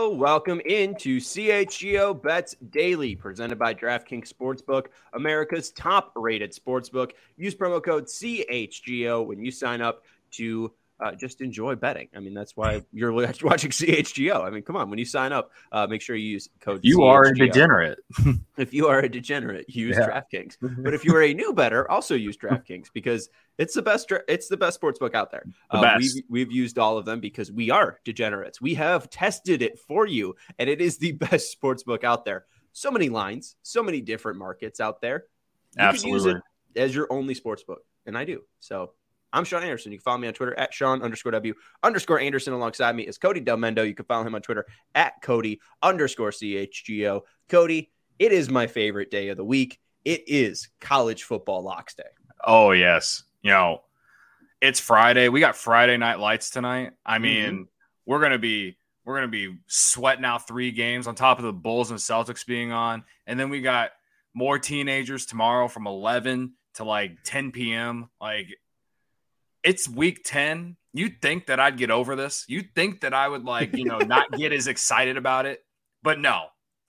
Hello, welcome into CHGO Bets Daily, presented by DraftKings Sportsbook, America's top-rated sportsbook. Use promo code CHGO when you sign up to just enjoy betting. I mean, that's why you're watching CHGO. I mean, come on, when you sign up, make sure you use code CHGO. You are a degenerate. If you are a degenerate, use DraftKings. But if you are a new bettor, also use DraftKings because it's the best. It's the best sportsbook out there. We've used all of them because we are degenerates. We have tested it for you, and it is the best sportsbook out there. So many lines, so many different markets out there. You Absolutely. could use it as your only sportsbook, and I do. So I'm Sean Anderson. You can follow me on Twitter at Sean_W_Anderson. Alongside me is Cody Del Mendo. You can follow him on Twitter at Cody_CHGO. Cody, it is my favorite day of the week. It is college football locks day. Oh, yes. You know, it's Friday. We got Friday night lights tonight. I mean, we're gonna be sweating out 3 games on top of the Bulls and Celtics being on. And then we got more teenagers tomorrow from 11 to like 10 p.m. Like, it's week 10. You'd think that I'd get over this. You'd think that I would not get as excited about it. But no,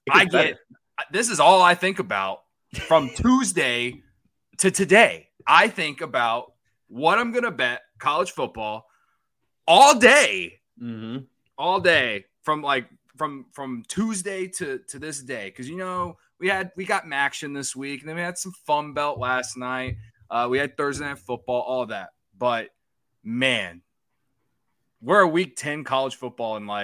this is all I think about from Tuesday to today. I think about what I'm going to bet college football all day, all day from Tuesday to this day. Cause we got Maction this week and then we had some Fun Belt last night. We had Thursday Night Football, all that. But man, we're a week 10 college football and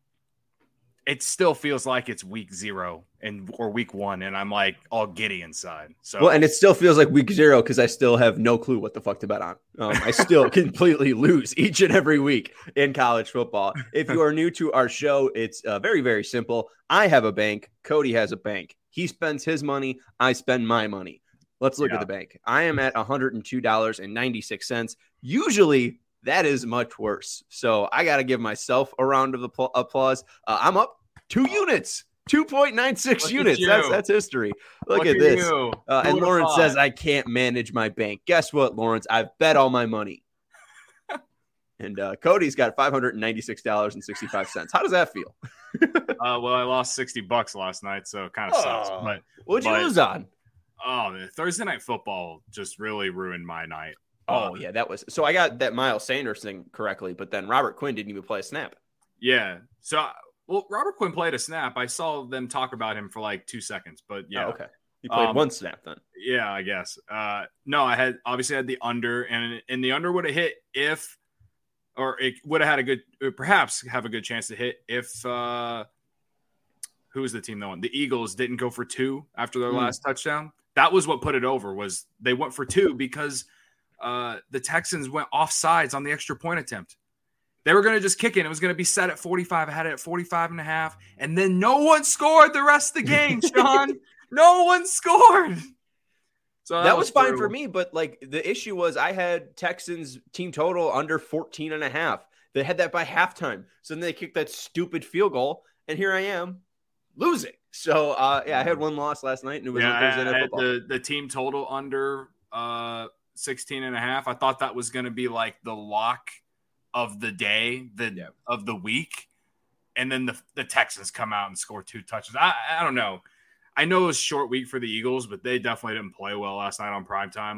it still feels like it's week 0 or week 1. And I'm like all giddy inside. So, and it still feels like week 0 because I still have no clue what the fuck to bet on. I still completely lose each and every week in college football. If you are new to our show, it's very, very simple. I have a bank. Cody has a bank. He spends his money. I spend my money. Let's look at the bank. I am at $102.96. Usually that is much worse. So I got to give myself a round of applause. I'm up 2 units, 2.96 units. That's history. Look at this. And Lawrence says I can't manage my bank. Guess what, Lawrence? I've bet all my money. And Cody's got $596.65. How does that feel? Well, I lost $60 last night, so it kind of sucks. But what'd you lose on? Oh, man, Thursday Night Football just really ruined my night. Oh, yeah, that was – so I got that Miles Sanders thing correctly, but then Robert Quinn didn't even play a snap. Yeah. So, Robert Quinn played a snap. I saw them talk about him for like 2 seconds, but yeah. Oh, okay. You played one snap then. Yeah, I guess. No, I had the under, and the under would have hit if – or it would have had perhaps have a good chance to hit if who was the team that won? The Eagles didn't go for 2 after their last touchdown. That was what put it over, was they went for 2 because the Texans went offsides on the extra point attempt. They were going to just kick it. It was going to be set at 45. I had it at 45.5. And then no one scored the rest of the game, Sean. No one scored. So that was fine for me, but the issue was I had Texans team total under 14.5. They had that by halftime. So then they kicked that stupid field goal, and here I am losing. So I had one loss last night, and it was Thursday Night Football. The team total under 16.5. I thought that was going to be like the lock of the day, of the week, and then the Texans come out and score 2 touchdowns. I don't know. I know it was a short week for the Eagles, but they definitely didn't play well last night on primetime.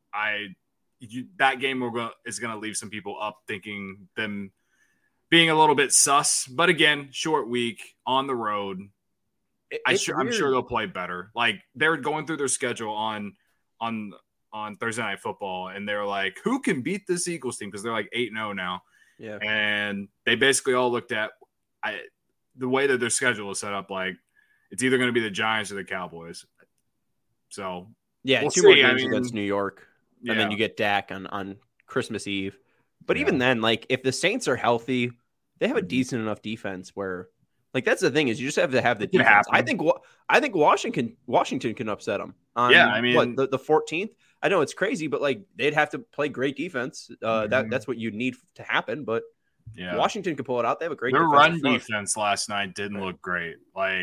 That game is going to leave some people up thinking them being a little bit sus. But again, short week on the road. I'm sure they'll play better. They're going through their schedule on Thursday Night Football, and they're like, who can beat this Eagles team? Because they're 8-0 now. Yeah. And they basically all looked at the way that their schedule is set up, it's either going to be the Giants or the Cowboys. So, yeah, we'll 2 more games against New York, and then you get Dak on Christmas Eve. But even then, if the Saints are healthy, they have a decent enough defense where, that's the thing is you just have to have the defense. I think Washington can upset them. On, the 14th? I know it's crazy, but they'd have to play great defense. That's what you need to happen. But Washington could pull it out. They have a great their run defense last night didn't look great.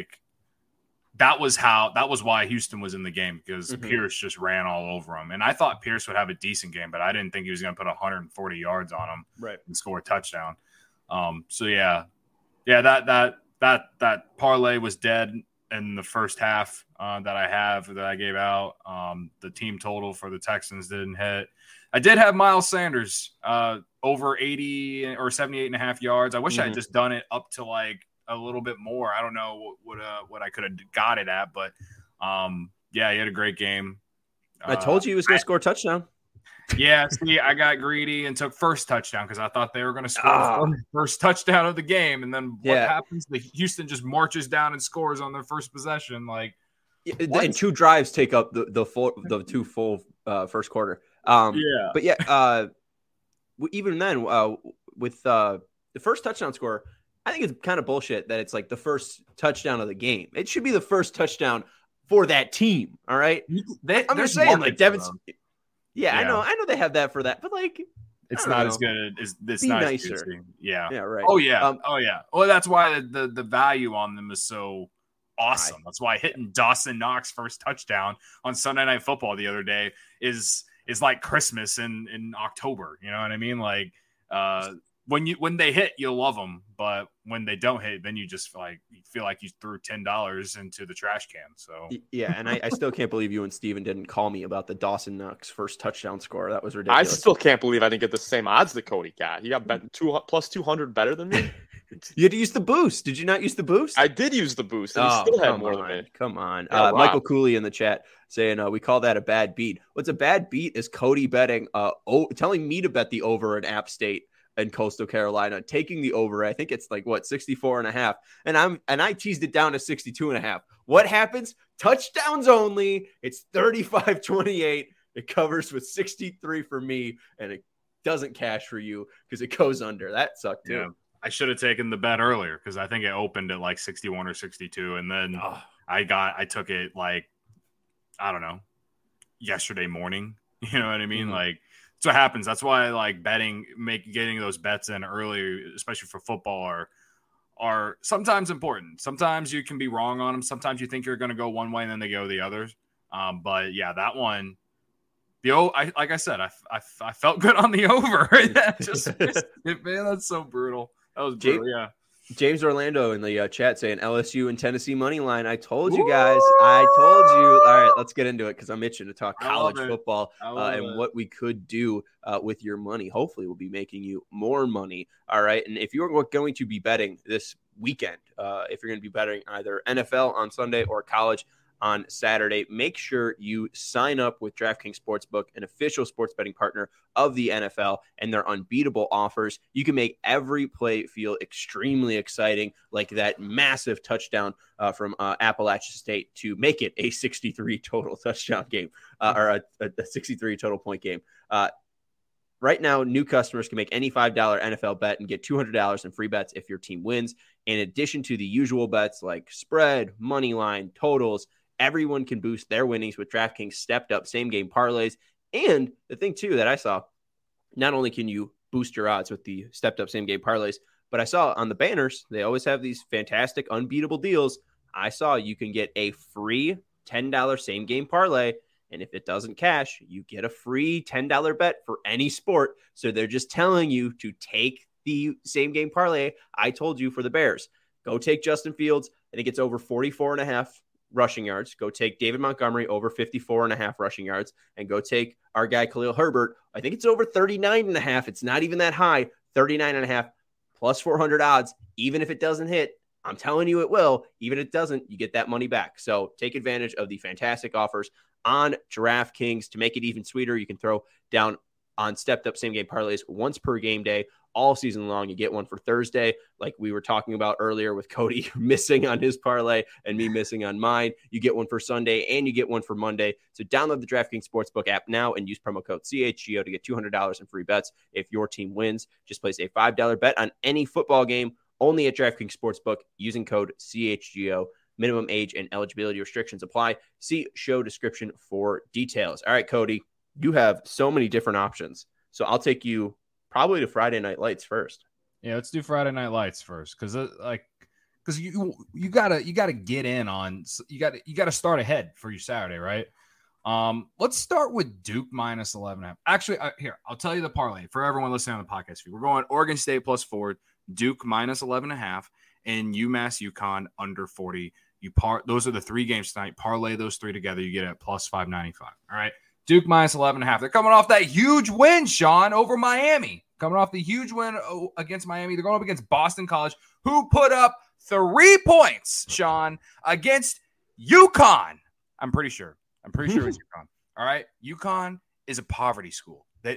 That was why Houston was in the game, because Pierce just ran all over him. And I thought Pierce would have a decent game, but I didn't think he was going to put 140 yards on him and score a touchdown. That that parlay was dead in the first half that I gave out. The team total for the Texans didn't hit. I did have Miles Sanders over 80 or 78.5 yards. I wish I had just done it up to like a little bit more. I don't know what I could have got it at, but yeah, he had a great game. I told you he was going to score a touchdown. Yeah, see, I got greedy and took first touchdown because I thought they were going to score the first touchdown of the game. And then what happens? The Houston just marches down and scores on their first possession. Like, and 2 drives take up the 2 full first quarter. But yeah, even then, with the first touchdown score, I think it's kind of bullshit that it's like the first touchdown of the game. It should be the first touchdown for that team. All right, I'm just saying, like Devin's. Yeah, I know they have that for that, but like it's not as good as this. Not nicer. As good. Yeah, right. Oh yeah, Well, that's why the value on them is so awesome. Right. That's why hitting Dawson Knox first touchdown on Sunday Night Football the other day is like Christmas in October. You know what I mean? Like when they hit, you'll love them, but when they don't hit, then you just feel like you threw $10 into the trash can. So yeah, and I still can't believe you and Steven didn't call me about the Dawson Knox first touchdown score. That was ridiculous. I still can't believe I didn't get the same odds that Cody got. He got plus 200 better than me. You had to use the boost. Did you not use the boost? I did use the boost, and he still had more than me. Come on. Michael Cooley in the chat saying we call that a bad beat. What's a bad beat is Cody betting, telling me to bet the over in App State and Coastal Carolina, taking the over. I think it's like 64.5, and I teased it down to 62.5. What happens? Touchdowns only. It's 35-28. It covers with 63 for me, and it doesn't cash for you because it goes under. That sucked too. Yeah. I should have taken the bet earlier because I think it opened at like 61 or 62, and then I took it like, I don't know, yesterday morning. You know what I mean? Like, that's what happens. That's why I like betting, getting those bets in early, especially for football, are sometimes important. Sometimes you can be wrong on them. Sometimes you think you're going to go one way and then they go the other. But yeah, that one, like I said, I felt good on the over. Man, that's so brutal. That was brutal. Yeah. James Orlando in the chat saying LSU and Tennessee money line. I told you guys. I told you. All right, let's get into it because I'm itching to talk college football and what we could do with your money. Hopefully, we'll be making you more money. All right, and if you're going to be betting this weekend, if you're going to be betting either NFL on Sunday or college on Saturday, make sure you sign up with DraftKings Sportsbook, an official sports betting partner of the NFL, and their unbeatable offers. You can make every play feel extremely exciting, like that massive touchdown from Appalachian State to make it a 63 total touchdown game or a 63 total point game. Right now, new customers can make any $5 NFL bet and get $200 in free bets if your team wins. In addition to the usual bets like spread, money line, totals, everyone can boost their winnings with DraftKings stepped up same game parlays. And the thing too that I saw, not only can you boost your odds with the stepped up same game parlays, but I saw on the banners, they always have these fantastic unbeatable deals. I saw you can get a free $10 same game parlay. And if it doesn't cash, you get a free $10 bet for any sport. So they're just telling you to take the same game parlay I told you for the Bears. Go take Justin Fields. I think it's over 44.5 rushing yards. Go take David Montgomery over 54.5 rushing yards, and go take our guy Khalil Herbert. I think it's over 39.5. It's not even that high. 39.5 plus 400 odds. Even if it doesn't hit, I'm telling you it will. Even if it doesn't, you get that money back. So take advantage of the fantastic offers on DraftKings. To make it even sweeter, you can throw down on stepped up same game parlays once per game day all season long. You get one for Thursday, like we were talking about earlier with Cody missing on his parlay and me missing on mine. You get one for Sunday and you get one for Monday. So download the DraftKings Sportsbook app now and use promo code CHGO to get $200 in free bets if your team wins. Just place a $5 bet on any football game only at DraftKings Sportsbook using code CHGO. Minimum age and eligibility restrictions apply. See show description for details. All right, Cody, you have so many different options. So I'll take you probably to Friday Night Lights first. Yeah, let's do Friday Night Lights first, because you gotta get in on, you gotta start ahead for your Saturday, right? Let's start with Duke minus 11.5. Actually, here I'll tell you the parlay for everyone listening on the podcast feed. We're going Oregon State plus 4, Duke minus 11.5, and UMass UConn under 40. Those are the 3 games tonight. Parlay those 3 together, you get it at plus 595. All right. Duke minus 11.5. They're coming off that huge win, Sean, over Miami. Coming off the huge win against Miami. They're going up against Boston College, who put up 3 points, Sean, against UConn. I'm pretty sure it's UConn. All right. UConn is a poverty school. They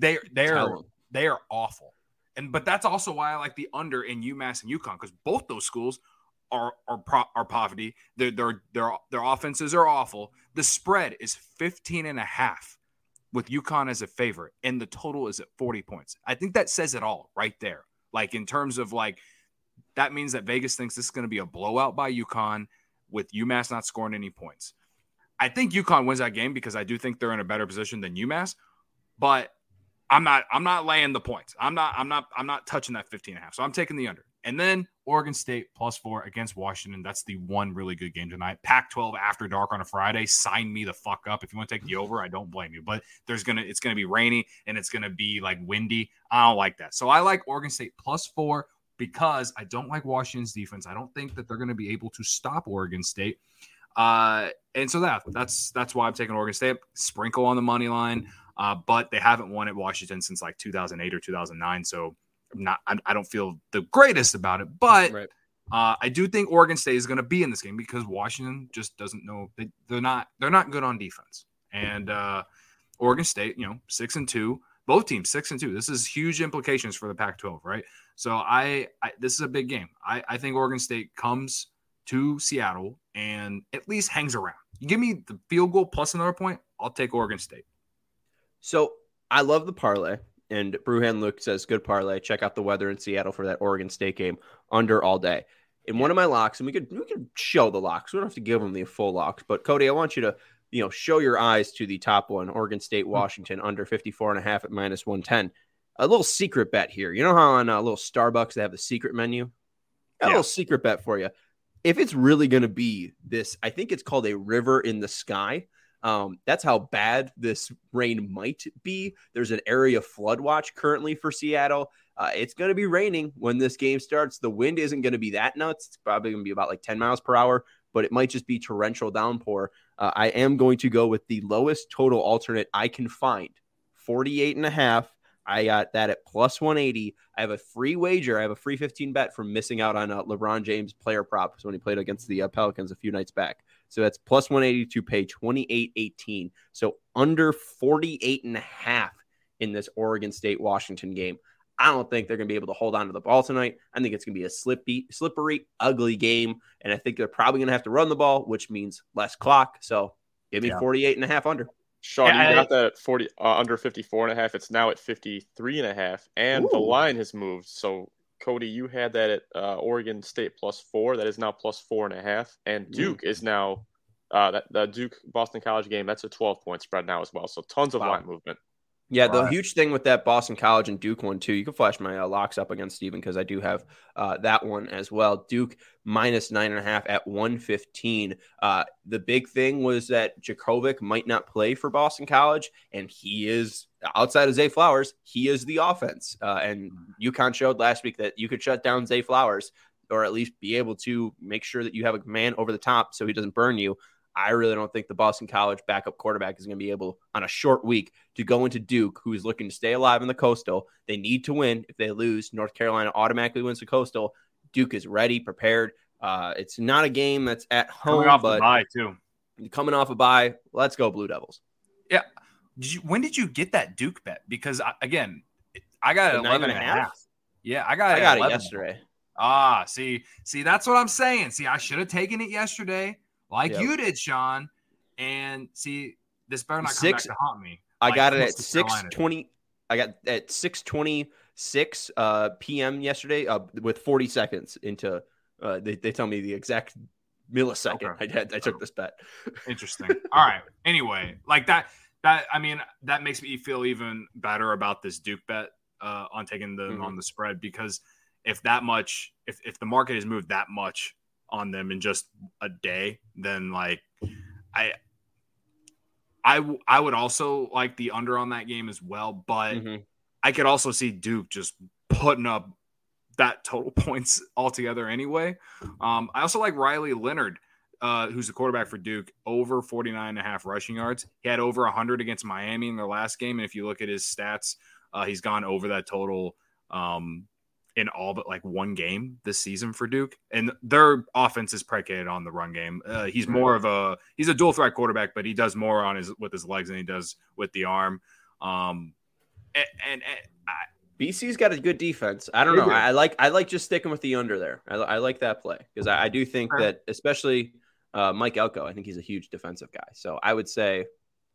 are awful. But that's also why I like the under in UMass and UConn, because both those schools are poverty. Their offenses are awful. The spread is 15.5 with UConn as a favorite, and the total is at 40 points. I think that says it all right there. Like, in terms of, like, that means that Vegas thinks this is going to be a blowout by UConn with UMass not scoring any points. I think UConn wins that game because I do think they're in a better position than UMass, but I'm not laying the points. I'm not touching that 15.5. So I'm taking the under. And then Oregon State +4 against Washington. That's the one really good game tonight. Pac-12 after dark on a Friday. Sign me the fuck up. If you want to take the over, I don't blame you. But it's gonna be rainy and it's gonna be like windy. I don't like that. So I like Oregon State +4 because I don't like Washington's defense. I don't think that they're gonna be able to stop Oregon State. And so that's why I'm taking Oregon State. Sprinkle on the money line. But they haven't won at Washington since like 2008 or 2009. So I don't feel the greatest about it, but right. I do think Oregon State is going to be in this game because Washington just doesn't know. They're not good on defense. And Oregon State, 6-2, both teams 6-2. This is huge implications for the Pac-12, right? So this is a big game. I think Oregon State comes to Seattle and at least hangs around. You give me the field goal plus another point, I'll take Oregon State. So I love the parlay. And Brewhan Luke says, good parlay. Check out the weather in Seattle for that Oregon State game under all day. In one of my locks, and we could show the locks. We don't have to give them the full locks. But, Cody, I want you to, show your eyes to the top one, Oregon State, Washington, under 54.5 at -110. A little secret bet here. You know how on a little Starbucks they have the secret menu? A little secret bet for you. If it's really going to be this, I think it's called a river in the sky. That's how bad this rain might be. There's an area flood watch currently for Seattle. It's going to be raining when this game starts. The wind isn't going to be that nuts. It's probably going to be about like 10 miles per hour, but it might just be torrential downpour. I am going to go with the lowest total alternate I can find, 48.5. I got that at +180. I have a free wager. I have a free 15 bet from missing out on LeBron James player props when he played against the Pelicans a few nights back. So that's +180 to pay 28.18. So under 48.5 in this Oregon State Washington game. I don't think they're going to be able to hold on to the ball tonight. I think it's going to be a slippery, ugly game. And I think they're probably going to have to run the ball, which means less clock. So give me 48.5 under. Sean, you got that at 40 under 54.5. It's now at 53.5, and the line has moved. So, Cody, you had that at Oregon State +4. That is now +4.5, and Duke is now that Duke Boston College game. That's a 12-point spread now as well. So, tons of line movement. Yeah, the huge thing with that Boston College and Duke one, too, you can flash my locks up against Steven because I do have that one as well. Duke -9.5 at 115. The big thing was that Djokovic might not play for Boston College, and he is, outside of Zay Flowers, he is the offense. And UConn showed last week that you could shut down Zay Flowers or at least be able to make sure that you have a man over the top so he doesn't burn you. I really don't think the Boston College backup quarterback is going to be able, on a short week, to go into Duke, who is looking to stay alive in the Coastal. They need to win. If they lose, North Carolina automatically wins the Coastal. Duke is ready, prepared. It's not a game that's at home, but coming off a bye, let's go Blue Devils. Yeah. When did you get that Duke bet? Because, I got it 11.5. Yeah, I got it yesterday. See, that's what I'm saying. See, I should have taken it yesterday. You did, Sean. And see, this better not come back to haunt me. I got it at 6:20. I got at 6:26 p.m. yesterday with 40 seconds into they tell me the exact millisecond I took this bet. Interesting. All right. Anyway, like that makes me feel even better about this Duke bet on taking them on the spread, because if the market has moved that much on them in just a day, then I would also like the under on that game as well, but I could also see Duke just putting up that total points altogether anyway. I also like Riley Leonard, who's the quarterback for Duke, over 49.5 rushing yards. He had over 100 against Miami in their last game. And if you look at his stats, he's gone over that total in all but like one game this season for Duke. And their offense is predicated on the run game. He's more of he's a dual threat quarterback, but he does more with his legs than he does with the arm. BC's got a good defense. I don't know. I like just sticking with the under there. I like that play because I do think that especially Mike Elko, I think he's a huge defensive guy. So I would say,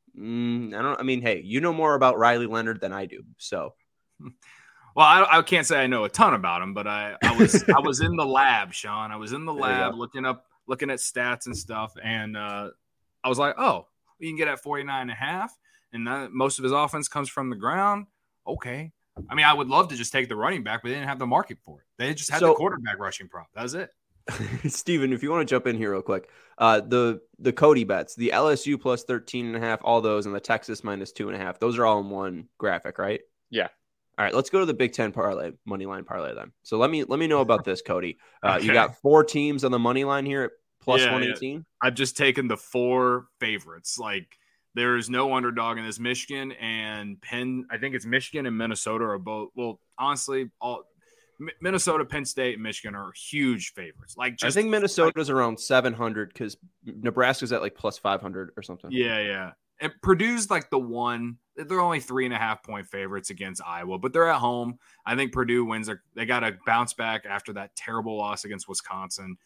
hey, you know more about Riley Leonard than I do. So, well, I can't say I know a ton about him, but I was in the lab, Sean. I was in the lab looking at stats and stuff, and I was like, oh, we can get at 49.5, and most of his offense comes from the ground. Okay. I mean, I would love to just take the running back, but they didn't have the market for it. They just had the quarterback rushing prop. That was it. Steven, if you want to jump in here real quick, the Cody bets, the LSU plus 13.5, all those, and the Texas minus 2.5, those are all in one graphic, right? Yeah. All right, let's go to the Big Ten parlay, money line parlay then. So let me know about this, Cody. Okay. You got 4 teams on the money line here at plus 118. Yeah. I've just taken the 4 favorites. Like, there is no underdog in this. Michigan and Penn. I think it's Michigan and Minnesota are both. Well, honestly, Minnesota, Penn State, and Michigan are huge favorites. I think Minnesota's around 700 because Nebraska's at like plus 500 or something. Yeah. And Purdue's like the one. They're only 3.5 point favorites against Iowa, but they're at home. I think Purdue wins. They got to bounce back after that terrible loss against Wisconsin.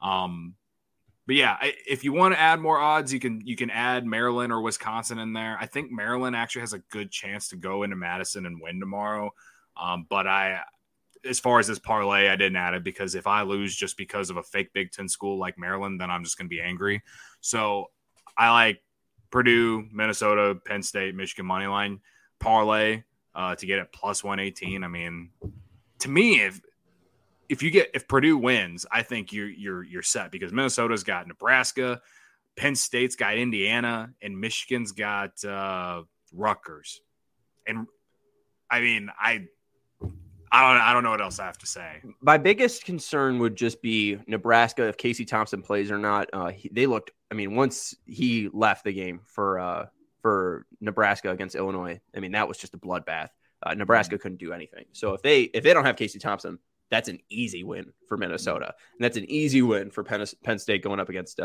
But yeah, if you want to add more odds, you can add Maryland or Wisconsin in there. I think Maryland actually has a good chance to go into Madison and win tomorrow. But as far as this parlay, I didn't add it because if I lose just because of a fake Big Ten school like Maryland, then I'm just going to be angry. So I like Purdue, Minnesota, Penn State, Michigan money line parlay to get it plus 118. I mean, to me, if Purdue wins, I think you're set because Minnesota's got Nebraska, Penn State's got Indiana, and Michigan's got Rutgers. And I mean, I don't know what else I have to say. My biggest concern would just be Nebraska if Casey Thompson plays or not. They looked. I mean, once he left the game for Nebraska against Illinois, I mean that was just a bloodbath. Nebraska couldn't do anything. So if they don't have Casey Thompson, that's an easy win for Minnesota, and that's an easy win for Penn State going up against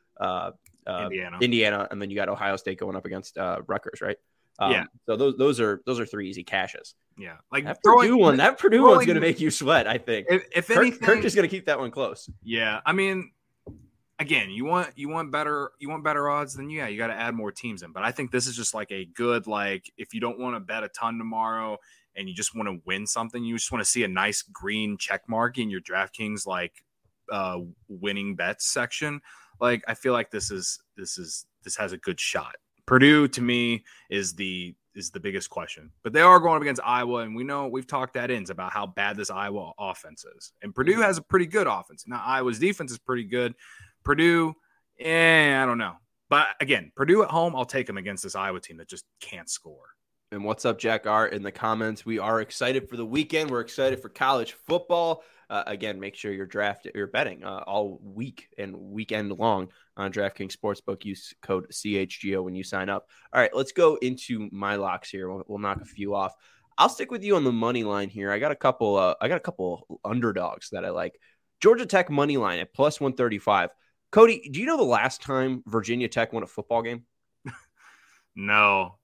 Indiana, and then you got Ohio State going up against Rutgers, right? So those are 3 easy cashes. Yeah, like that Purdue one's going to make you sweat. I think if anything, Kirk is going to keep that one close. Yeah, I mean, again, you want better odds, then you got to add more teams in. But I think this is just like a good if you don't want to bet a ton tomorrow and you just want to win something, you just want to see a nice green check mark in your DraftKings winning bets section. I feel like this has a good shot. Purdue to me is the biggest question, but they are going up against Iowa, and we've talked ad ends about how bad this Iowa offense is, and Purdue has a pretty good offense. Now Iowa's defense is pretty good. Purdue, I don't know, but again, Purdue at home, I'll take them against this Iowa team that just can't score. And what's up, Jack R? In the comments, we are excited for the weekend. We're excited for college football. Again, make sure you're betting all week and weekend long on DraftKings Sportsbook. Use code CHGO when you sign up. All right, let's go into my locks here. We'll knock a few off. I'll stick with you on the money line here. I got a couple underdogs that I like. Georgia Tech money line at plus 135. Cody, do you know the last time Virginia Tech won a football game? No.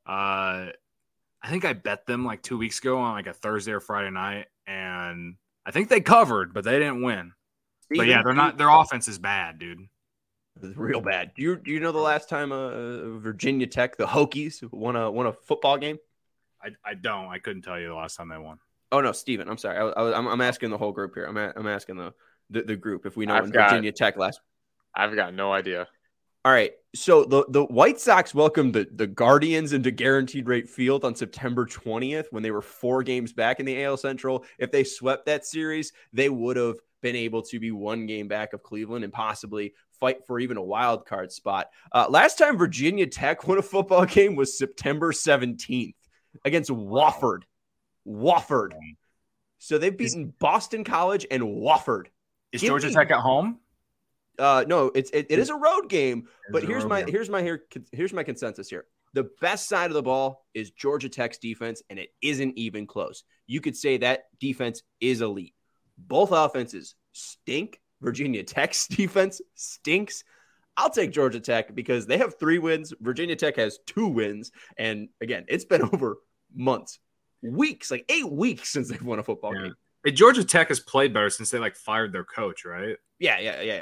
I think I bet them 2 weeks ago on a Thursday or Friday night, and I think they covered, but they didn't win. But yeah, they're not. Their offense is bad, dude. It's real bad. Do you know the last time Virginia Tech, the Hokies, won a football game? I don't. I couldn't tell you the last time they won. Oh no, Steven, I'm sorry. I'm asking the whole group here. I'm asking the group if we know when Virginia Tech last. I've got no idea. All right, so the White Sox welcomed the Guardians into Guaranteed Rate Field on September 20th when they were 4 games back in the AL Central. If they swept that series, they would have been able to be 1 game back of Cleveland and possibly fight for even a wild card spot. Last time Virginia Tech won a football game was September 17th against Wofford. So they've beaten Boston College and Wofford. Is Georgia Tech at home? No, it is a road game. But here's my consensus here. The best side of the ball is Georgia Tech's defense, and it isn't even close. You could say that defense is elite. Both offenses stink. Virginia Tech's defense stinks. I'll take Georgia Tech because they have 3 wins. Virginia Tech has 2 wins. And again, it's been over months, weeks, like 8 weeks since they've won a football game. And Georgia Tech has played better since they fired their coach, right? Yeah.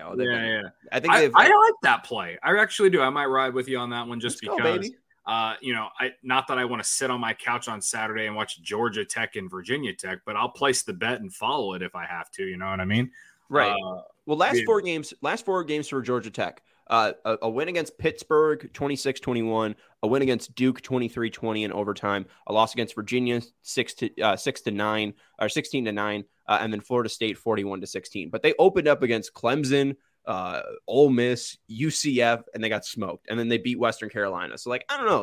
I think I like that play. I actually do. I might ride with you on that one just because. Go, baby. Not that I want to sit on my couch on Saturday and watch Georgia Tech and Virginia Tech, but I'll place the bet and follow it if I have to. You know what I mean? Right. Last four games for Georgia Tech. A win against Pittsburgh, 26-21. A win against Duke, 23-20 in overtime. A loss against Virginia, 16-9, and then Florida State, 41-16. But they opened up against Clemson, Ole Miss, UCF, and they got smoked. And then they beat Western Carolina. So, I don't know.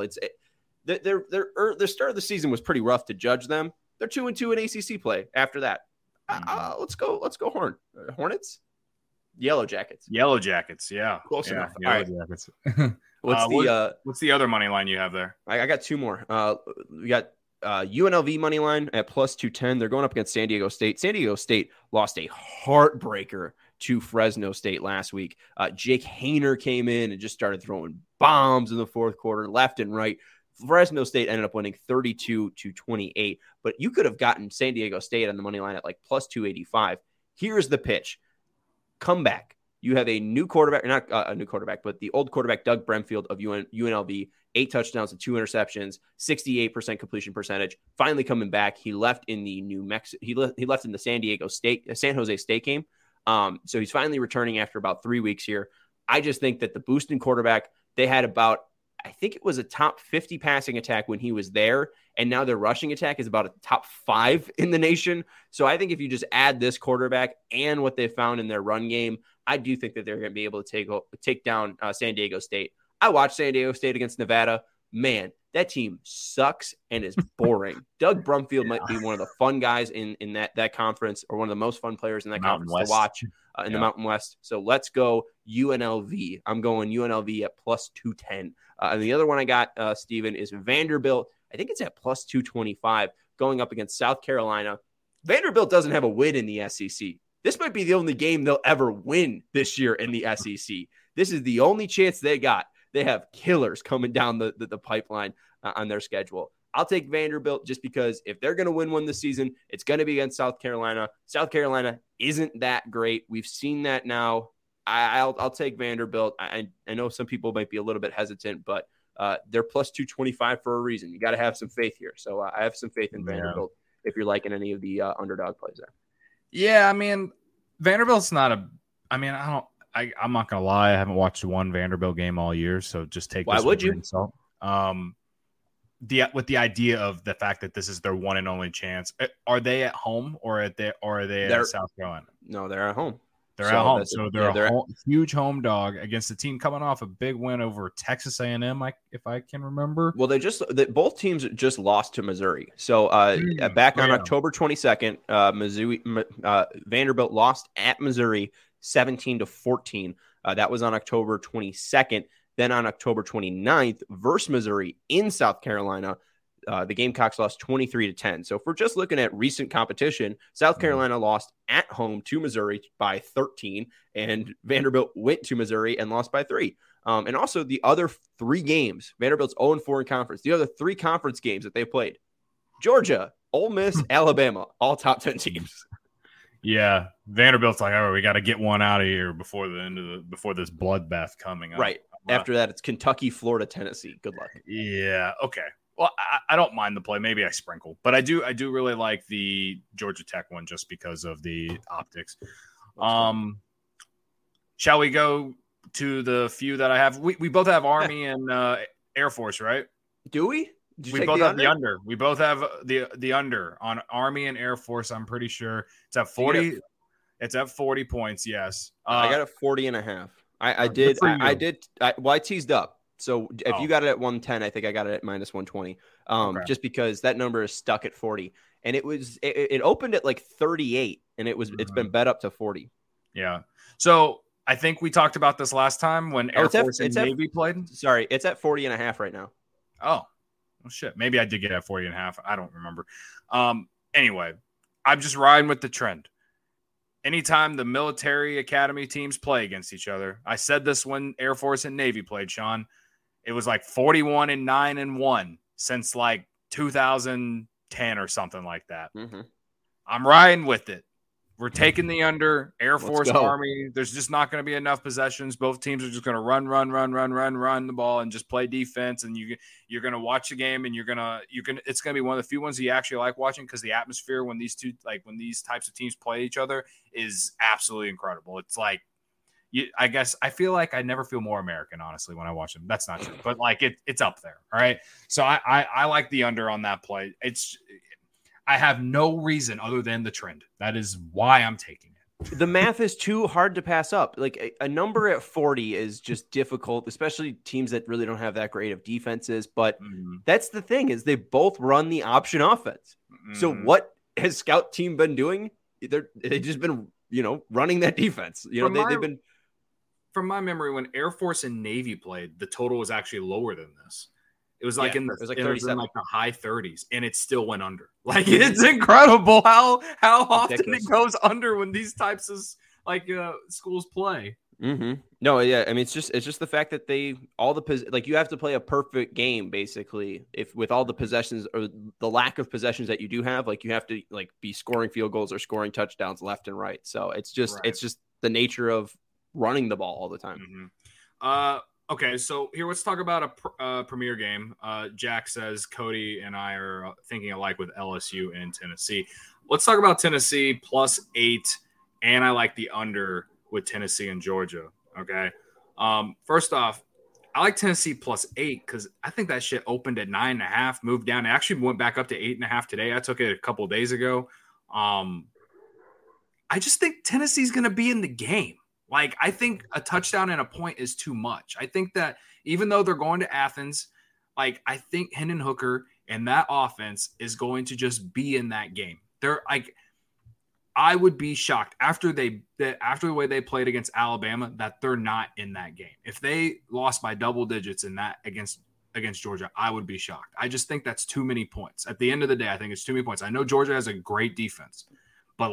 The start of the season was pretty rough to judge them. They're 2-2 in ACC play after that. Let's go Hornets. Yellow Jackets, yeah, close enough. Yellow Jackets. What's the other money line you have there? I got 2 more. We got UNLV money line at +210. They're going up against San Diego State. San Diego State lost a heartbreaker to Fresno State last week. Jake Haener came in and just started throwing bombs in the fourth quarter, left and right. Fresno State ended up winning 32-28, but you could have gotten San Diego State on the money line at +285. Here's the pitch. Come back. You have a new quarterback, not a new quarterback, but the old quarterback, Doug Bremfield of UNLV, 8 touchdowns and 2 interceptions, 68% completion percentage. Finally coming back. He left in the he left in the San Jose State game. So he's finally returning after about 3 weeks here. I just think that the Booston quarterback, they had about, I think it was a top 50 passing attack when he was there. And now their rushing attack is about a top 5 in the nation. So I think if you just add this quarterback and what they found in their run game, I do think that they're going to be able to take down San Diego State. I watched San Diego State against Nevada. Man, that team sucks and is boring. Doug Brumfield might be one of the fun guys in that conference, or one of the most fun players in that conference to watch in the Mountain West. So let's go UNLV. I'm going UNLV at +210. And the other one I got, Steven, is Vanderbilt. I think it's at +225 going up against South Carolina. Vanderbilt doesn't have a win in the SEC. This might be the only game they'll ever win this year in the SEC. This is the only chance they got. They have killers coming down the pipeline on their schedule. I'll take Vanderbilt just because if they're going to win one this season, it's going to be against South Carolina. South Carolina isn't that great. We've seen that now. I'll take Vanderbilt. I know some people might be a little bit hesitant, but they're +225 for a reason. You got to have some faith here. So I have some faith in Vanderbilt if you're liking any of the underdog plays there. Yeah, I mean, Vanderbilt's not I'm not going to lie. I haven't watched one Vanderbilt game all year, so just take this with a grain of salt. With the idea of the fact that this is their one and only chance. Are they at home or are they at South Carolina? No, they're at home. They're at home, so they're a huge home dog against a team coming off a big win over Texas A&M, if I can remember. Well, both teams just lost to Missouri. So back on October 22nd, Vanderbilt lost at Missouri 17-14. That was on October 22nd. Then on October 29th, versus Missouri in South Carolina, the Gamecocks lost 23-10. So if we're just looking at recent competition, South Carolina lost at home to Missouri by 13, and Vanderbilt went to Missouri and lost by 3. And also the other 3 games, Vanderbilt's 0-4 in conference. The other 3 conference games that they played, Georgia, Ole Miss, Alabama, all top 10 teams. Yeah, Vanderbilt's like, all right, we got to get one out of here before this bloodbath coming up. Right. After that, it's Kentucky, Florida, Tennessee. Good luck. Yeah. Okay. Well, I don't mind the play. Maybe I sprinkle, but I do really like the Georgia Tech one just because of the optics. Shall we go to the few that I have? We both have Army and Air Force, right? Do we? We both have the under. We both have the under on Army and Air Force. I'm pretty sure it's at 40. It's at 40 points. Yes, I got it 40.5. I teased up. So if you got it at 110, I think I got it at -120. Just because that number is stuck at 40. and it opened at like 38, and it's been bet up to 40. Yeah. So I think we talked about this last time when Air Force and Navy played. Sorry, it's at 40.5 right now. Oh, well, shit. Maybe I did get at 40.5. I don't remember. Anyway, I'm just riding with the trend. Anytime the military academy teams play against each other, I said this when Air Force and Navy played, Sean. It was like 41-9-1 since like 2010 or something like that. Mm-hmm. I'm riding with it. We're taking the under. Air Force, Army. There's just not going to be enough possessions. Both teams are just going to run the ball and just play defense. And you're going to watch the game, and it's going to be one of the few ones that you actually like watching, because the atmosphere when these types of teams play each other is absolutely incredible. It's like, I guess I feel like I never feel more American, honestly, when I watch them. That's not true, but like it's up there. All right. So I like the under on that play. I have no reason other than the trend. That is why I'm taking it. The math is too hard to pass up. Like a number at 40 is just difficult, especially teams that really don't have that great of defenses. But that's the thing, is they both run the option offense. So what has Scout Team been doing? They've just been, running that defense. They've been. From my memory, when Air Force and Navy played, the total was actually lower than this. It was like in the high 30s, and it still went under. Like, it's incredible how often it goes under when these types of schools play. Mm-hmm. No, yeah, I mean, it's just the fact that you have to play a perfect game basically. If with all the possessions or the lack of possessions that you do have, like you have to be scoring field goals or scoring touchdowns left and right. So it's just the nature of running the ball all the time. Mm-hmm. Okay, so here let's talk about a premier game. Jack says Cody and I are thinking alike with LSU and Tennessee. Let's talk about Tennessee +8, and I like the under with Tennessee and Georgia. Okay, first off, I like Tennessee +8 because I think that shit opened at 9.5, moved down. It actually went back up to 8.5 today. I took it a couple of days ago. I just think Tennessee's going to be in the game. Like, I think a touchdown and a point is too much. I think that even though they're going to Athens, I think Hendon Hooker and that offense is going to just be in that game. I would be shocked after the way they played against Alabama that they're not in that game. If they lost by double digits in that against Georgia, I would be shocked. I just think that's too many points. At the end of the day, I think it's too many points. I know Georgia has a great defense, but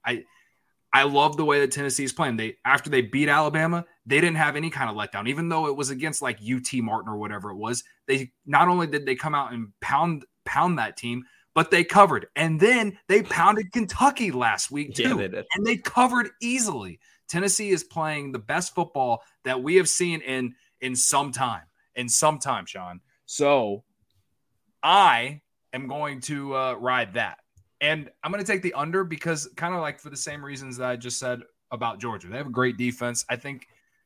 I love the way that Tennessee is playing. After they beat Alabama, they didn't have any kind of letdown, even though it was against UT Martin or whatever it was. They not only did they come out and pound that team, but they covered. And then they pounded Kentucky last week too. Yeah, they did. And they covered easily. Tennessee is playing the best football that we have seen in some time. Sean. So I am going to ride that. And I'm going to take the under because kind of for the same reasons that I just said about Georgia. They have a great defense. I think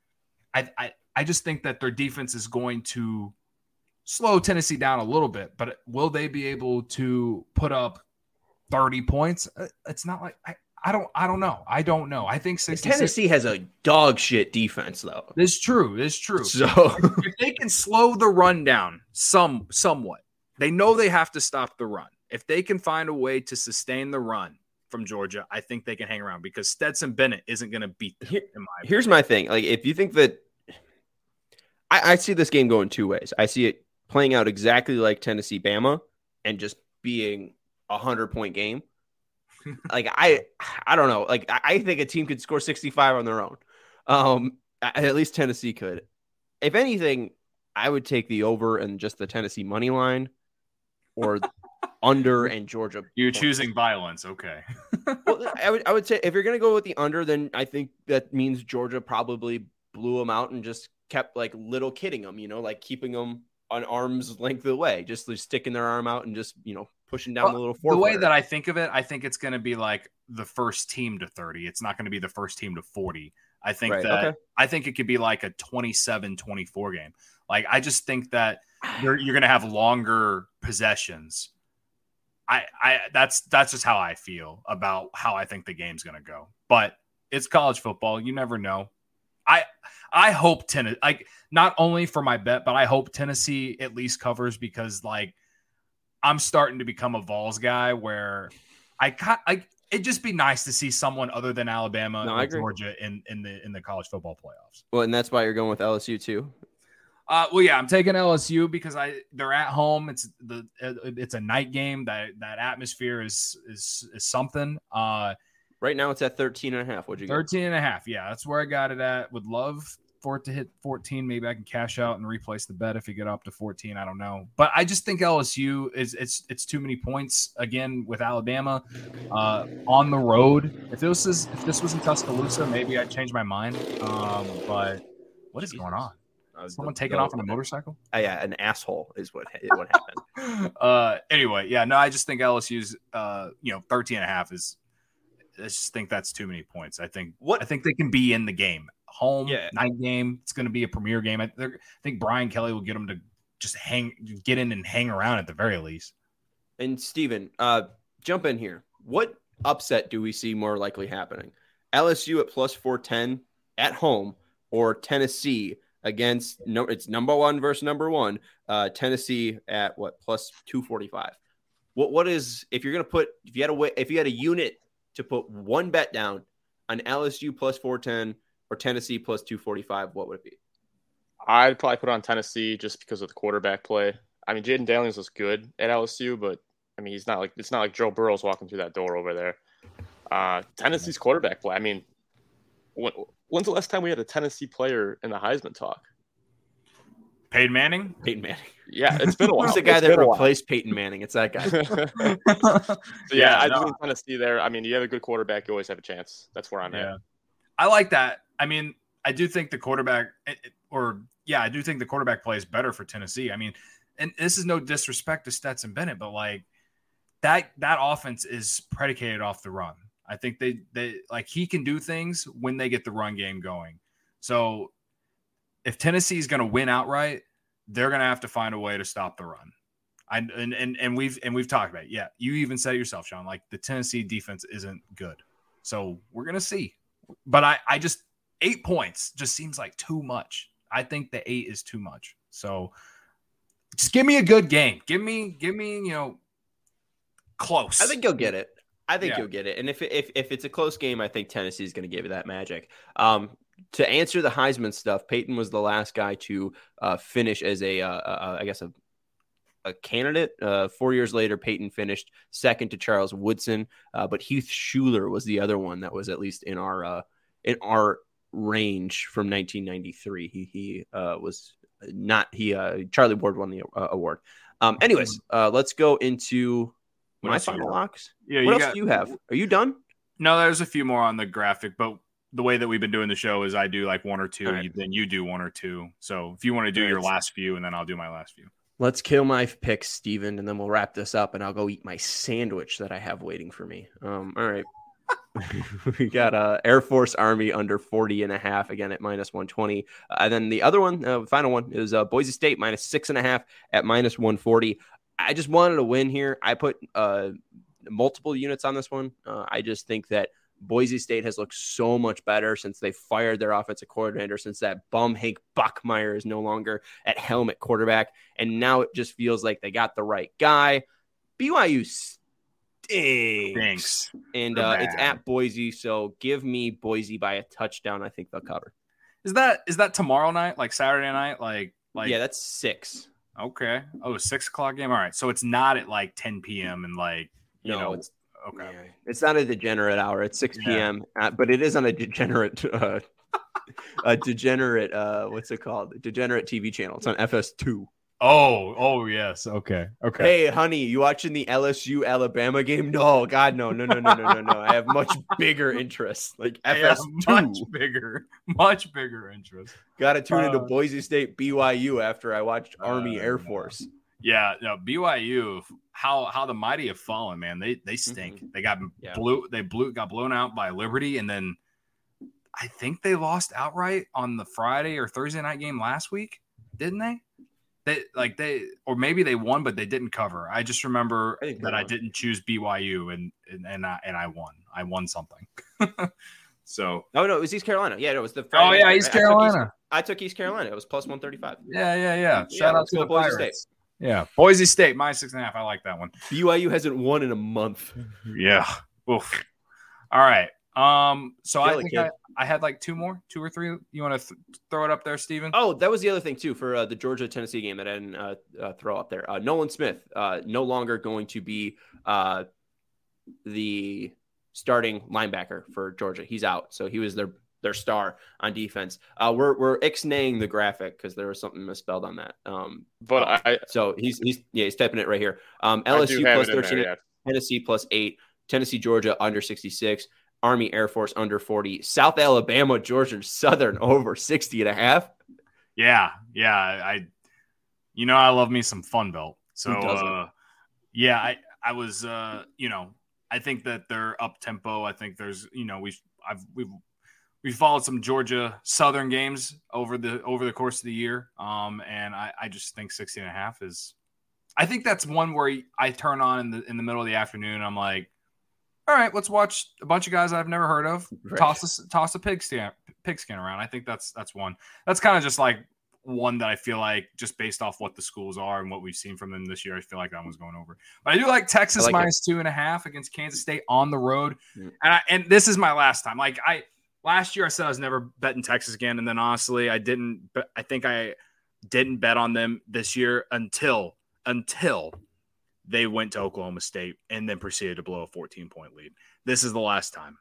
I just think that their defense is going to slow Tennessee down a little bit, but will they be able to put up 30 points? It's not like I don't know. I don't know. I think Tennessee has a dog shit defense though. It's true. So if they can slow the run down somewhat, they know they have to stop the run. If they can find a way to sustain the run from Georgia, I think they can hang around because Stetson Bennett isn't going to beat them. Here's my thing. If you think that I see this game going two ways. I see it playing out exactly like Tennessee Bama and just being 100-point game. I don't know. I think a team could score 65 on their own. At least Tennessee could. If anything, I would take the over and just the Tennessee money line or under and Georgia. You're choosing violence. Okay. Well, I would say if you're going to go with the under, then I think that means Georgia probably blew them out and just kept little kidding them, keeping them on arm's length away, just sticking their arm out and just, pushing down the little four. The way that I think of it, I think it's going to be the first team to 30. It's not going to be the first team to 40. I think I think it could be a 27-24 game. I just think that you're going to have longer possessions. That's just how I feel about how I think the game's going to go. But it's college football. You never know. I hope Tennessee, not only for my bet, but I hope Tennessee at least covers because I'm starting to become a Vols guy where it'd just be nice to see someone other than Alabama or Georgia in the college football playoffs. Well, and that's why you're going with LSU too. Well, yeah, I'm taking LSU because they're at home. It's a night game. That atmosphere is something. Right now it's at 13.5. What'd you get? 13.5. Yeah, that's where I got it at. Would love for it to hit 14. Maybe I can cash out and replace the bet if you get up to 14. I don't know, but I just think LSU it's too many points again with Alabama on the road. If this was in Tuscaloosa, maybe I'd change my mind. But what is going on? Someone taking off on a motorcycle? Yeah, an asshole is what happened. Anyway, yeah, no, I just think LSU's 13.5 is. I just think that's too many points. I think they can be in the game. Home night game. It's going to be a premier game. I think Brian Kelly will get them to just get in and hang around at the very least. And Steven, jump in here. What upset do we see more likely happening? LSU at plus 410 at home, or Tennessee against it's number one versus number one. Tennessee at what, plus 245? What is, if you're going to put, if you had a unit to put one bet down on LSU plus 410 or Tennessee plus 245, what would it be? I'd probably put on Tennessee just because of the quarterback play. I mean, Jaden Daniels was good at LSU, but I mean, it's not like Joe Burrow's walking through that door over there. Tennessee's quarterback play. I mean, when's the last time we had a Tennessee player in the Heisman talk? Peyton Manning? Peyton Manning. Yeah, it's been a while. Who's the guy that replaced Peyton Manning? It's that guy. I think Tennessee there. I mean, you have a good quarterback, you always have a chance. That's where I'm at. I like that. I mean, I do think the quarterback I do think the quarterback play is better for Tennessee. I mean, and this is no disrespect to Stetson Bennett, but like that offense is predicated off the run. I think they like he can do things when they get the run game going. So if Tennessee is going to win outright, they're going to have to find a way to stop the run. And we've talked about it. Yeah, you even said it yourself, Sean. Like the Tennessee defense isn't good, so we're going to see. But I just 8 points just seems like too much. I think the 8 is too much. So just give me a good game. Give me close. I think you'll get it. You'll get it. And if it's a close game, I think Tennessee is going to give you that magic. To answer the Heisman stuff, Peyton was the last guy to finish as I guess a candidate. 4 years later, Peyton finished second to Charles Woodson, but Heath Shuler was the other one that was at least in our range from 1993. He was not Charlie Ward won the award. Anyways, let's go into my final locks. Yeah, what else do you have? Are you done? No, there's a few more on the graphic, but the way that we've been doing the show is I do like one or two, right. Then you do one or two. So if you want to do your last few, and then I'll do my last few. Let's kill my picks, Steven, and then we'll wrap this up, and I'll go eat my sandwich that I have waiting for me. All right. We got Air Force Army under 40.5 again at minus 120. And then the other one, final one, is Boise State minus 6.5 at minus 140. I just wanted to win here. I put multiple units on this one. I just think that Boise State has looked so much better since they fired their offensive coordinator, since that bum Hank Buckmeyer is no longer at helm at quarterback. And now it just feels like they got the right guy. BYU stinks. And it's at Boise, so give me Boise by a touchdown. I think they'll cover. Is that tomorrow night, like Saturday night? Like yeah, that's 6. Okay. Oh, 6 o'clock game. All right. So it's not at like 10 p.m. and like it's okay. Yeah. It's not a degenerate hour. It's 6 p.m. But it is on a degenerate what's it called? Degenerate TV channel. It's on FS2. Oh yes. Okay. Hey, honey, you watching the LSU Alabama game? No, God, no. I have much bigger interests, like FS2. Much bigger interest. Got to tune into Boise State BYU after I watched Army Air Force. Yeah, no, BYU. How the mighty have fallen, man. They stink. Mm-hmm. They got got blown out by Liberty, and then I think they lost outright on the Friday or Thursday night game last week, didn't they? Or maybe they won, but they didn't cover. I just remember that I didn't choose BYU and I won. I won something. So no, it was East Carolina. Yeah, it was the Friday. Oh yeah, East Carolina. I took East Carolina. It was plus 135. Yeah. Shout out to the Pirates. Yeah. Boise State, -6.5. I like that one. BYU hasn't won in a month. Yeah. Oof. All right. So I think kid. I had like two or three. You want to throw it up there, Steven? Oh, that was the other thing too for the Georgia-Tennessee game that I didn't throw up there. Nolan Smith no longer going to be the starting linebacker for Georgia. He's out, so he was their star on defense. We're ixnaying the graphic because there was something misspelled on that. So he's typing it right here. LSU plus 13, Tennessee plus 8, Tennessee Georgia under 66. Army Air Force under 40, South Alabama, Georgia Southern over 60.5. Yeah. I love me some Fun Belt. So I was I think that they're up tempo. I think there's we've followed some Georgia Southern games over the course of the year. And I just think 60.5 is. I think that's one where I turn on in the middle of the afternoon. I'm like, all right, let's watch a bunch of guys I've never heard of. Right. Toss a pigskin around. I think that's one. That's kind of just like one that I feel like just based off what the schools are and what we've seen from them this year, I feel like that one's going over. But I do like Texas -2.5 against Kansas State on the road. Mm. And this is my last time. Like last year I said I was never betting Texas again, and then honestly I didn't. But I think I didn't bet on them this year until they went to Oklahoma State and then proceeded to blow a 14-point lead. This is the last time.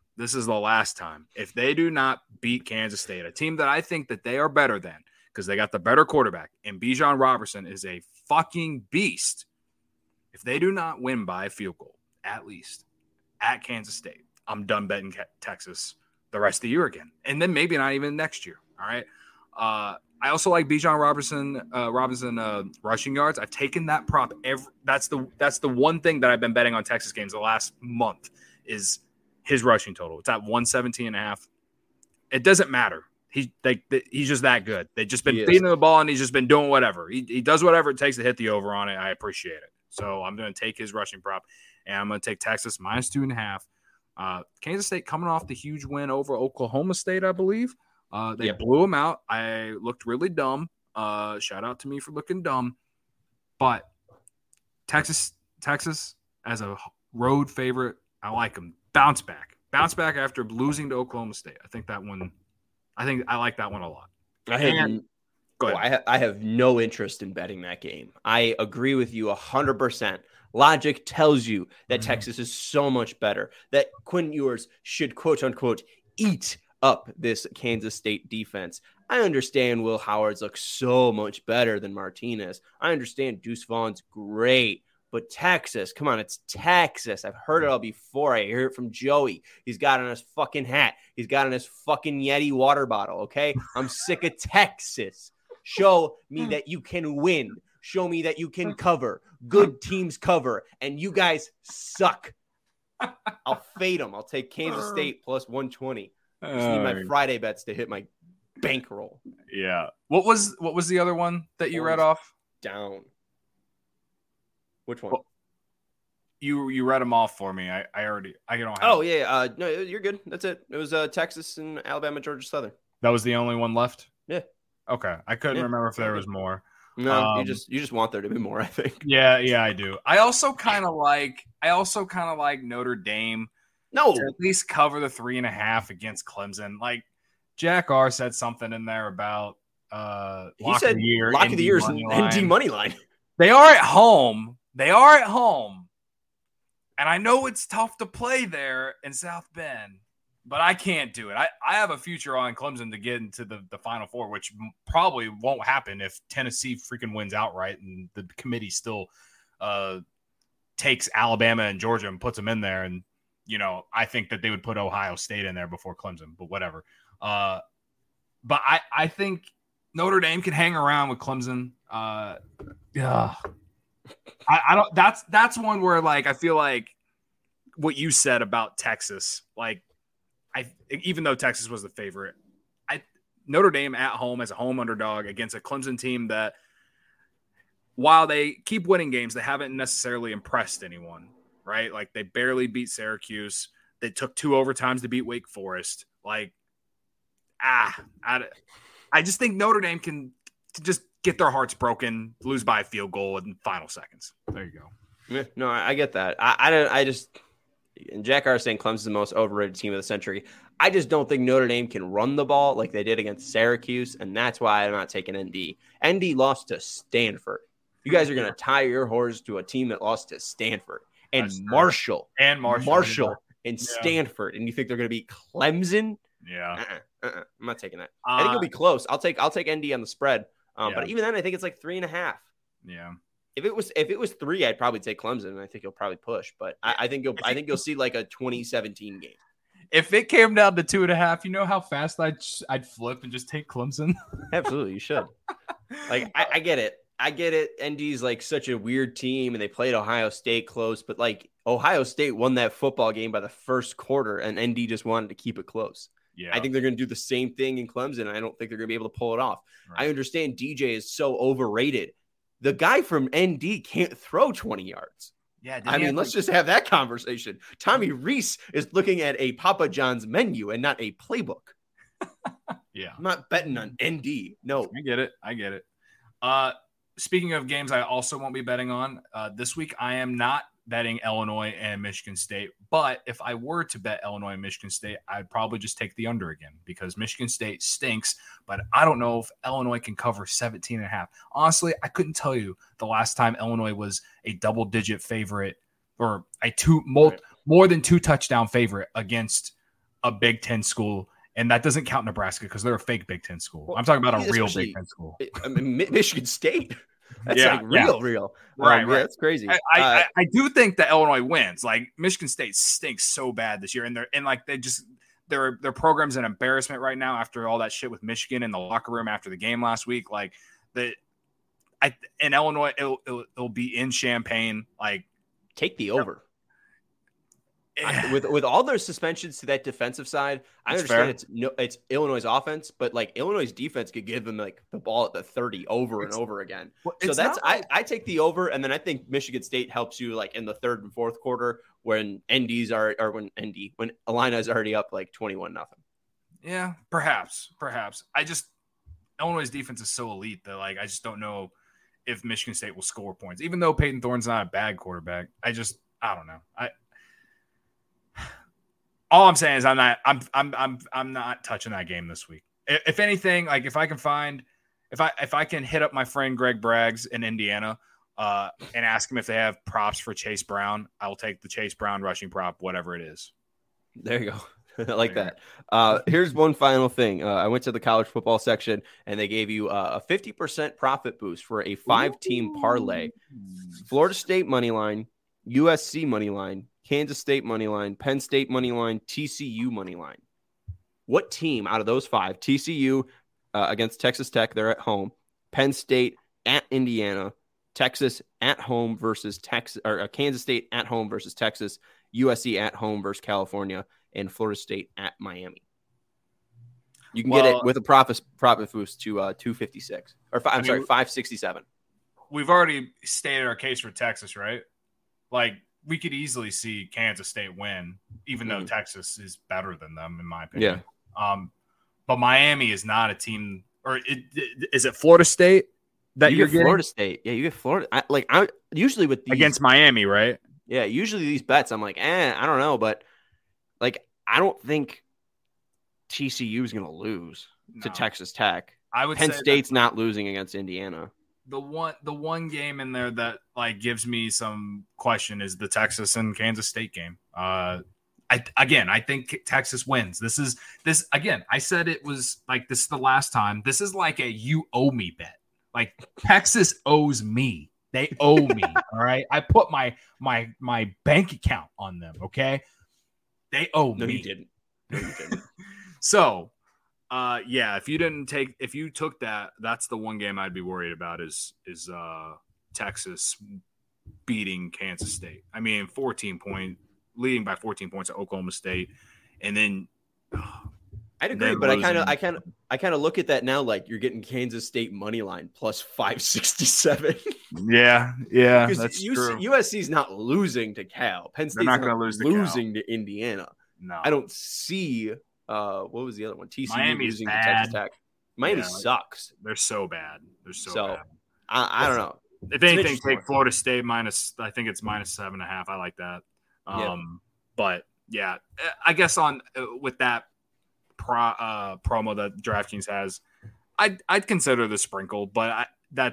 If they do not beat Kansas State, a team that I think that they are better than because they got the better quarterback, and Bijan Robertson is a fucking beast. If they do not win by a field goal, at least, at Kansas State, I'm done betting Texas the rest of the year again. And then maybe not even next year, all right? I also like Bijan Robinson rushing yards. I've taken that prop. That's the one thing that I've been betting on Texas games the last month is his rushing total. It's at 117.5. It doesn't matter. He's just that good. They've just been feeding the ball and he's just been doing whatever. He does whatever it takes to hit the over on it. I appreciate it. So I'm going to take his rushing prop and I'm going to take Texas -2.5. Kansas State coming off the huge win over Oklahoma State, I believe. They blew them out. I looked really dumb. Shout out to me for looking dumb. But Texas as a road favorite, I like them. Bounce back after losing to Oklahoma State. I like that one a lot. Go ahead. I have no interest in betting that game. I agree with you 100%. Logic tells you that Texas is so much better, that Quinn Ewers should, quote unquote, eat up this Kansas State defense. I understand Will Howard's looks so much better than Martinez. I understand Deuce Vaughn's great, but Texas, come on, it's Texas. I've heard it all before. I hear it from Joey. He's got on his fucking hat. He's got on his fucking Yeti water bottle, okay? I'm sick of Texas. Show me that you can win. Show me that you can cover. Good teams cover, and you guys suck. I'll fade them. I'll take Kansas State plus 120. I just need my Friday bets to hit my bankroll. Yeah. What was the other one that you read off? Down. Which one? Well, you read them off for me. I don't have. Oh yeah. No, you're good. That's it. It was Texas and Alabama, Georgia Southern. That was the only one left. Yeah. Okay. I couldn't remember if there was more. No, you just want there to be more, I think. Yeah, I do. I also kind of like Notre Dame. No, to at least cover the 3.5 against Clemson. Like Jack R said something in there about lock of the year and D money line. They are at home. And I know it's tough to play there in South Bend, but I can't do it. I have a future on Clemson to get into the Final Four, which probably won't happen if Tennessee freaking wins outright and the committee still takes Alabama and Georgia and puts them in there. And, I think that they would put Ohio State in there before Clemson, but whatever. But I think Notre Dame can hang around with Clemson. Yeah. I don't. That's one where I feel like what you said about Texas. Even though Texas was the favorite, Notre Dame at home as a home underdog against a Clemson team that, while they keep winning games, they haven't necessarily impressed anyone. Right? They barely beat Syracuse. They took 2 overtimes to beat Wake Forest. I just think Notre Dame can just get their hearts broken, lose by a field goal in final seconds. There you go. Yeah, no, I get that. I just and Jack R saying Clemson's the most overrated team of the century. I just don't think Notre Dame can run the ball like they did against Syracuse, and that's why I'm not taking ND. ND lost to Stanford. You guys are going to tie your horse to a team that lost to Stanford and Marshall and Stanford, and you think they're going to beat Clemson? Yeah, I'm not taking that. I think it'll be close. I'll take ND on the spread, yeah. But even then, I think it's like 3.5. Yeah. If it was 3, I'd probably take Clemson, and I think he'll probably push. But I think you'll see like a 2017 game. If it came down to 2.5, you know how fast I'd flip and just take Clemson. Absolutely, you should. Like I get it. ND's like such a weird team, and they played Ohio State close, but like Ohio State won that football game by the first quarter, and ND just wanted to keep it close. Yeah, I think they're going to do the same thing in Clemson. I don't think they're going to be able to pull it off. Right. I understand DJ is so overrated. The guy from ND can't throw 20 yards. Yeah, I mean, let's just have that conversation. Tommy Rees is looking at a Papa John's menu and not a playbook. Yeah. I'm not betting on ND. No. I get it. Speaking of games I also won't be betting on, this week I am not betting Illinois and Michigan State. But if I were to bet Illinois and Michigan State, I'd probably just take the under again because Michigan State stinks. But I don't know if Illinois can cover 17.5. Honestly, I couldn't tell you the last time Illinois was a double-digit favorite or more than 2 touchdown favorite against a Big Ten school. And that doesn't count Nebraska because they're a fake Big Ten school. Well, I'm talking about a real Big Ten school. I mean, Michigan State. That's real. Right. That's crazy. I do think that Illinois wins. Like Michigan State stinks so bad this year, and their program's an embarrassment right now after all that shit with Michigan in the locker room after the game last week. Like in Illinois, it'll be in Champaign. Like take the over. With all their suspensions to that defensive side, I understand it's Illinois' offense, but like Illinois' defense could give them like the ball at the 30 over and over again. So that's I take the over, and then I think Michigan State helps you like in the third and fourth quarter when when Illini's already up like 21-0. Yeah, perhaps. Illinois' defense is so elite that like I just don't know if Michigan State will score points, even though Peyton Thorne's not a bad quarterback. I don't know. All I'm saying is I'm not touching that game this week. If anything, like if I can hit up my friend Greg Braggs in Indiana and ask him if they have props for Chase Brown, I'll take the Chase Brown rushing prop, whatever it is. There you go. I like that. Here's one final thing. I went to the college football section and they gave you a 50% profit boost for a 5-team parlay. Florida State money line, USC money line, Kansas State money line, Penn State money line, TCU money line. What team out of those 5? TCU against Texas Tech, they're at home. Penn State at Indiana. Texas at home versus Texas, or Kansas State at home versus Texas. USC at home versus California, and Florida State at Miami. You can get it with a profit boost to 256 or 567. We've already stated our case for Texas, right? Like, we could easily see Kansas State win, even though Texas is better than them, in my opinion. Yeah. But Miami is not a team, or is it Florida State that you're getting? Florida State. Yeah, you get Florida. I usually with these, against Miami, right? Yeah, usually these bets, I'm like, I don't know, but like, I don't think TCU is going to lose to Texas Tech. I would Penn say State's not losing against Indiana. The one game in there that like gives me some question is the Texas and Kansas State game. I think Texas wins. I said it was like this is the last time. This is like a you owe me bet. Like Texas owes me. They owe me. All right. I put my bank account on them. Okay. They owe me. No, you didn't. So if you took that, that's the one game I'd be worried about is Texas beating Kansas State. I mean, leading by 14 points at Oklahoma State, and then I'd agree, but I kind of look at that now like you're getting Kansas State money line plus 567. Yeah, that's true. USC's not losing to Cal. Penn State's not going to losing to Indiana. No, I don't see. What was the other one? TCU Miami's losing bad. to Texas Tech. Miami sucks. They're so bad. They're so bad. I don't know. If anything, take Florida State minus. I think it's -7.5. I like that. But yeah, I guess with that promo that DraftKings has, I'd consider the sprinkle, but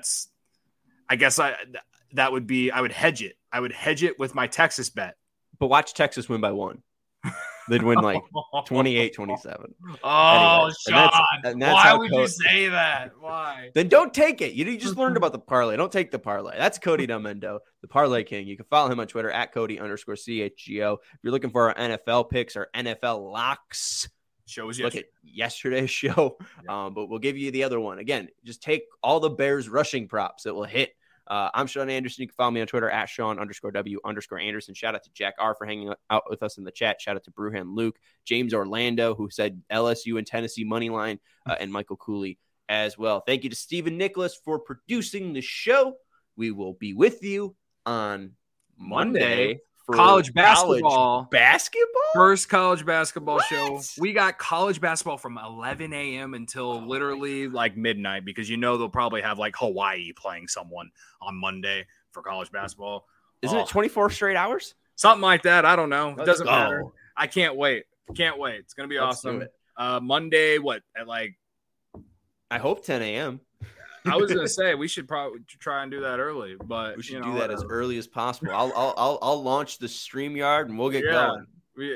I would hedge it. I would hedge it with my Texas bet. But watch Texas win by 1. They'd win like 28-27. Oh, anyway, Sean, why would you say that? Why? Then don't take it. You just learned about the parlay. Don't take the parlay. That's Cody Delmendo, the Parlay King. You can follow him on Twitter at Cody_CHGO. If you're looking for our NFL picks, our NFL locks, look at yesterday's show. Yeah. But we'll give you the other one. Again, just take all the Bears rushing props that will hit. I'm Sean Anderson. You can follow me on Twitter at Sean_W_Anderson. Shout out to Jack R for hanging out with us in the chat. Shout out to Brewhan Luke, James Orlando, who said LSU and Tennessee money line, and Michael Cooley as well. Thank you to Stephen Nicholas for producing the show. We will be with you on Monday for college basketball. First college basketball show. We got college basketball from 11 a.m. until literally like midnight, because they'll probably have like Hawaii playing someone on Monday for college basketball. Isn't it 24 straight hours? Something like that. I don't know. It doesn't go. matter. I can't wait. It's going to be awesome. Monday, at like? I hope 10 a.m. I was gonna say we should probably try and do that early, but we should do that as early as possible. I'll launch the StreamYard and we'll get going. We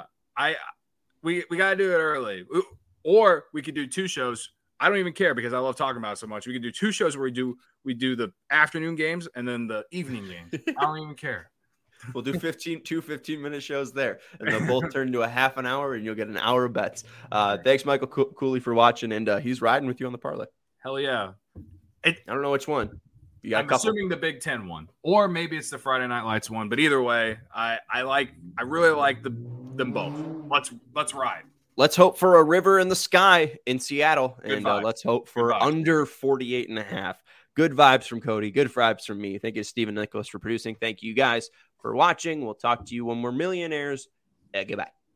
gotta do it early, or we could do 2 shows. I don't even care because I love talking about it so much. We could do 2 shows where we do the afternoon games and then the evening games. I don't even care. We'll do 15-minute shows there, and they'll both turn into a half an hour, and you'll get an hour of bets. Thanks, Michael Cooley, for watching, and he's riding with you on the parlay. Hell yeah. I don't know which one. You got I'm assuming the Big Ten one, or maybe it's the Friday Night Lights one. But either way, I really like them both. Let's ride. Let's hope for a river in the sky in Seattle, Good and vibes. Let's hope for under 48.5. Good vibes from Cody. Good vibes from me. Thank you to Stephen Nicholas for producing. Thank you guys for watching. We'll talk to you when we're millionaires. Goodbye.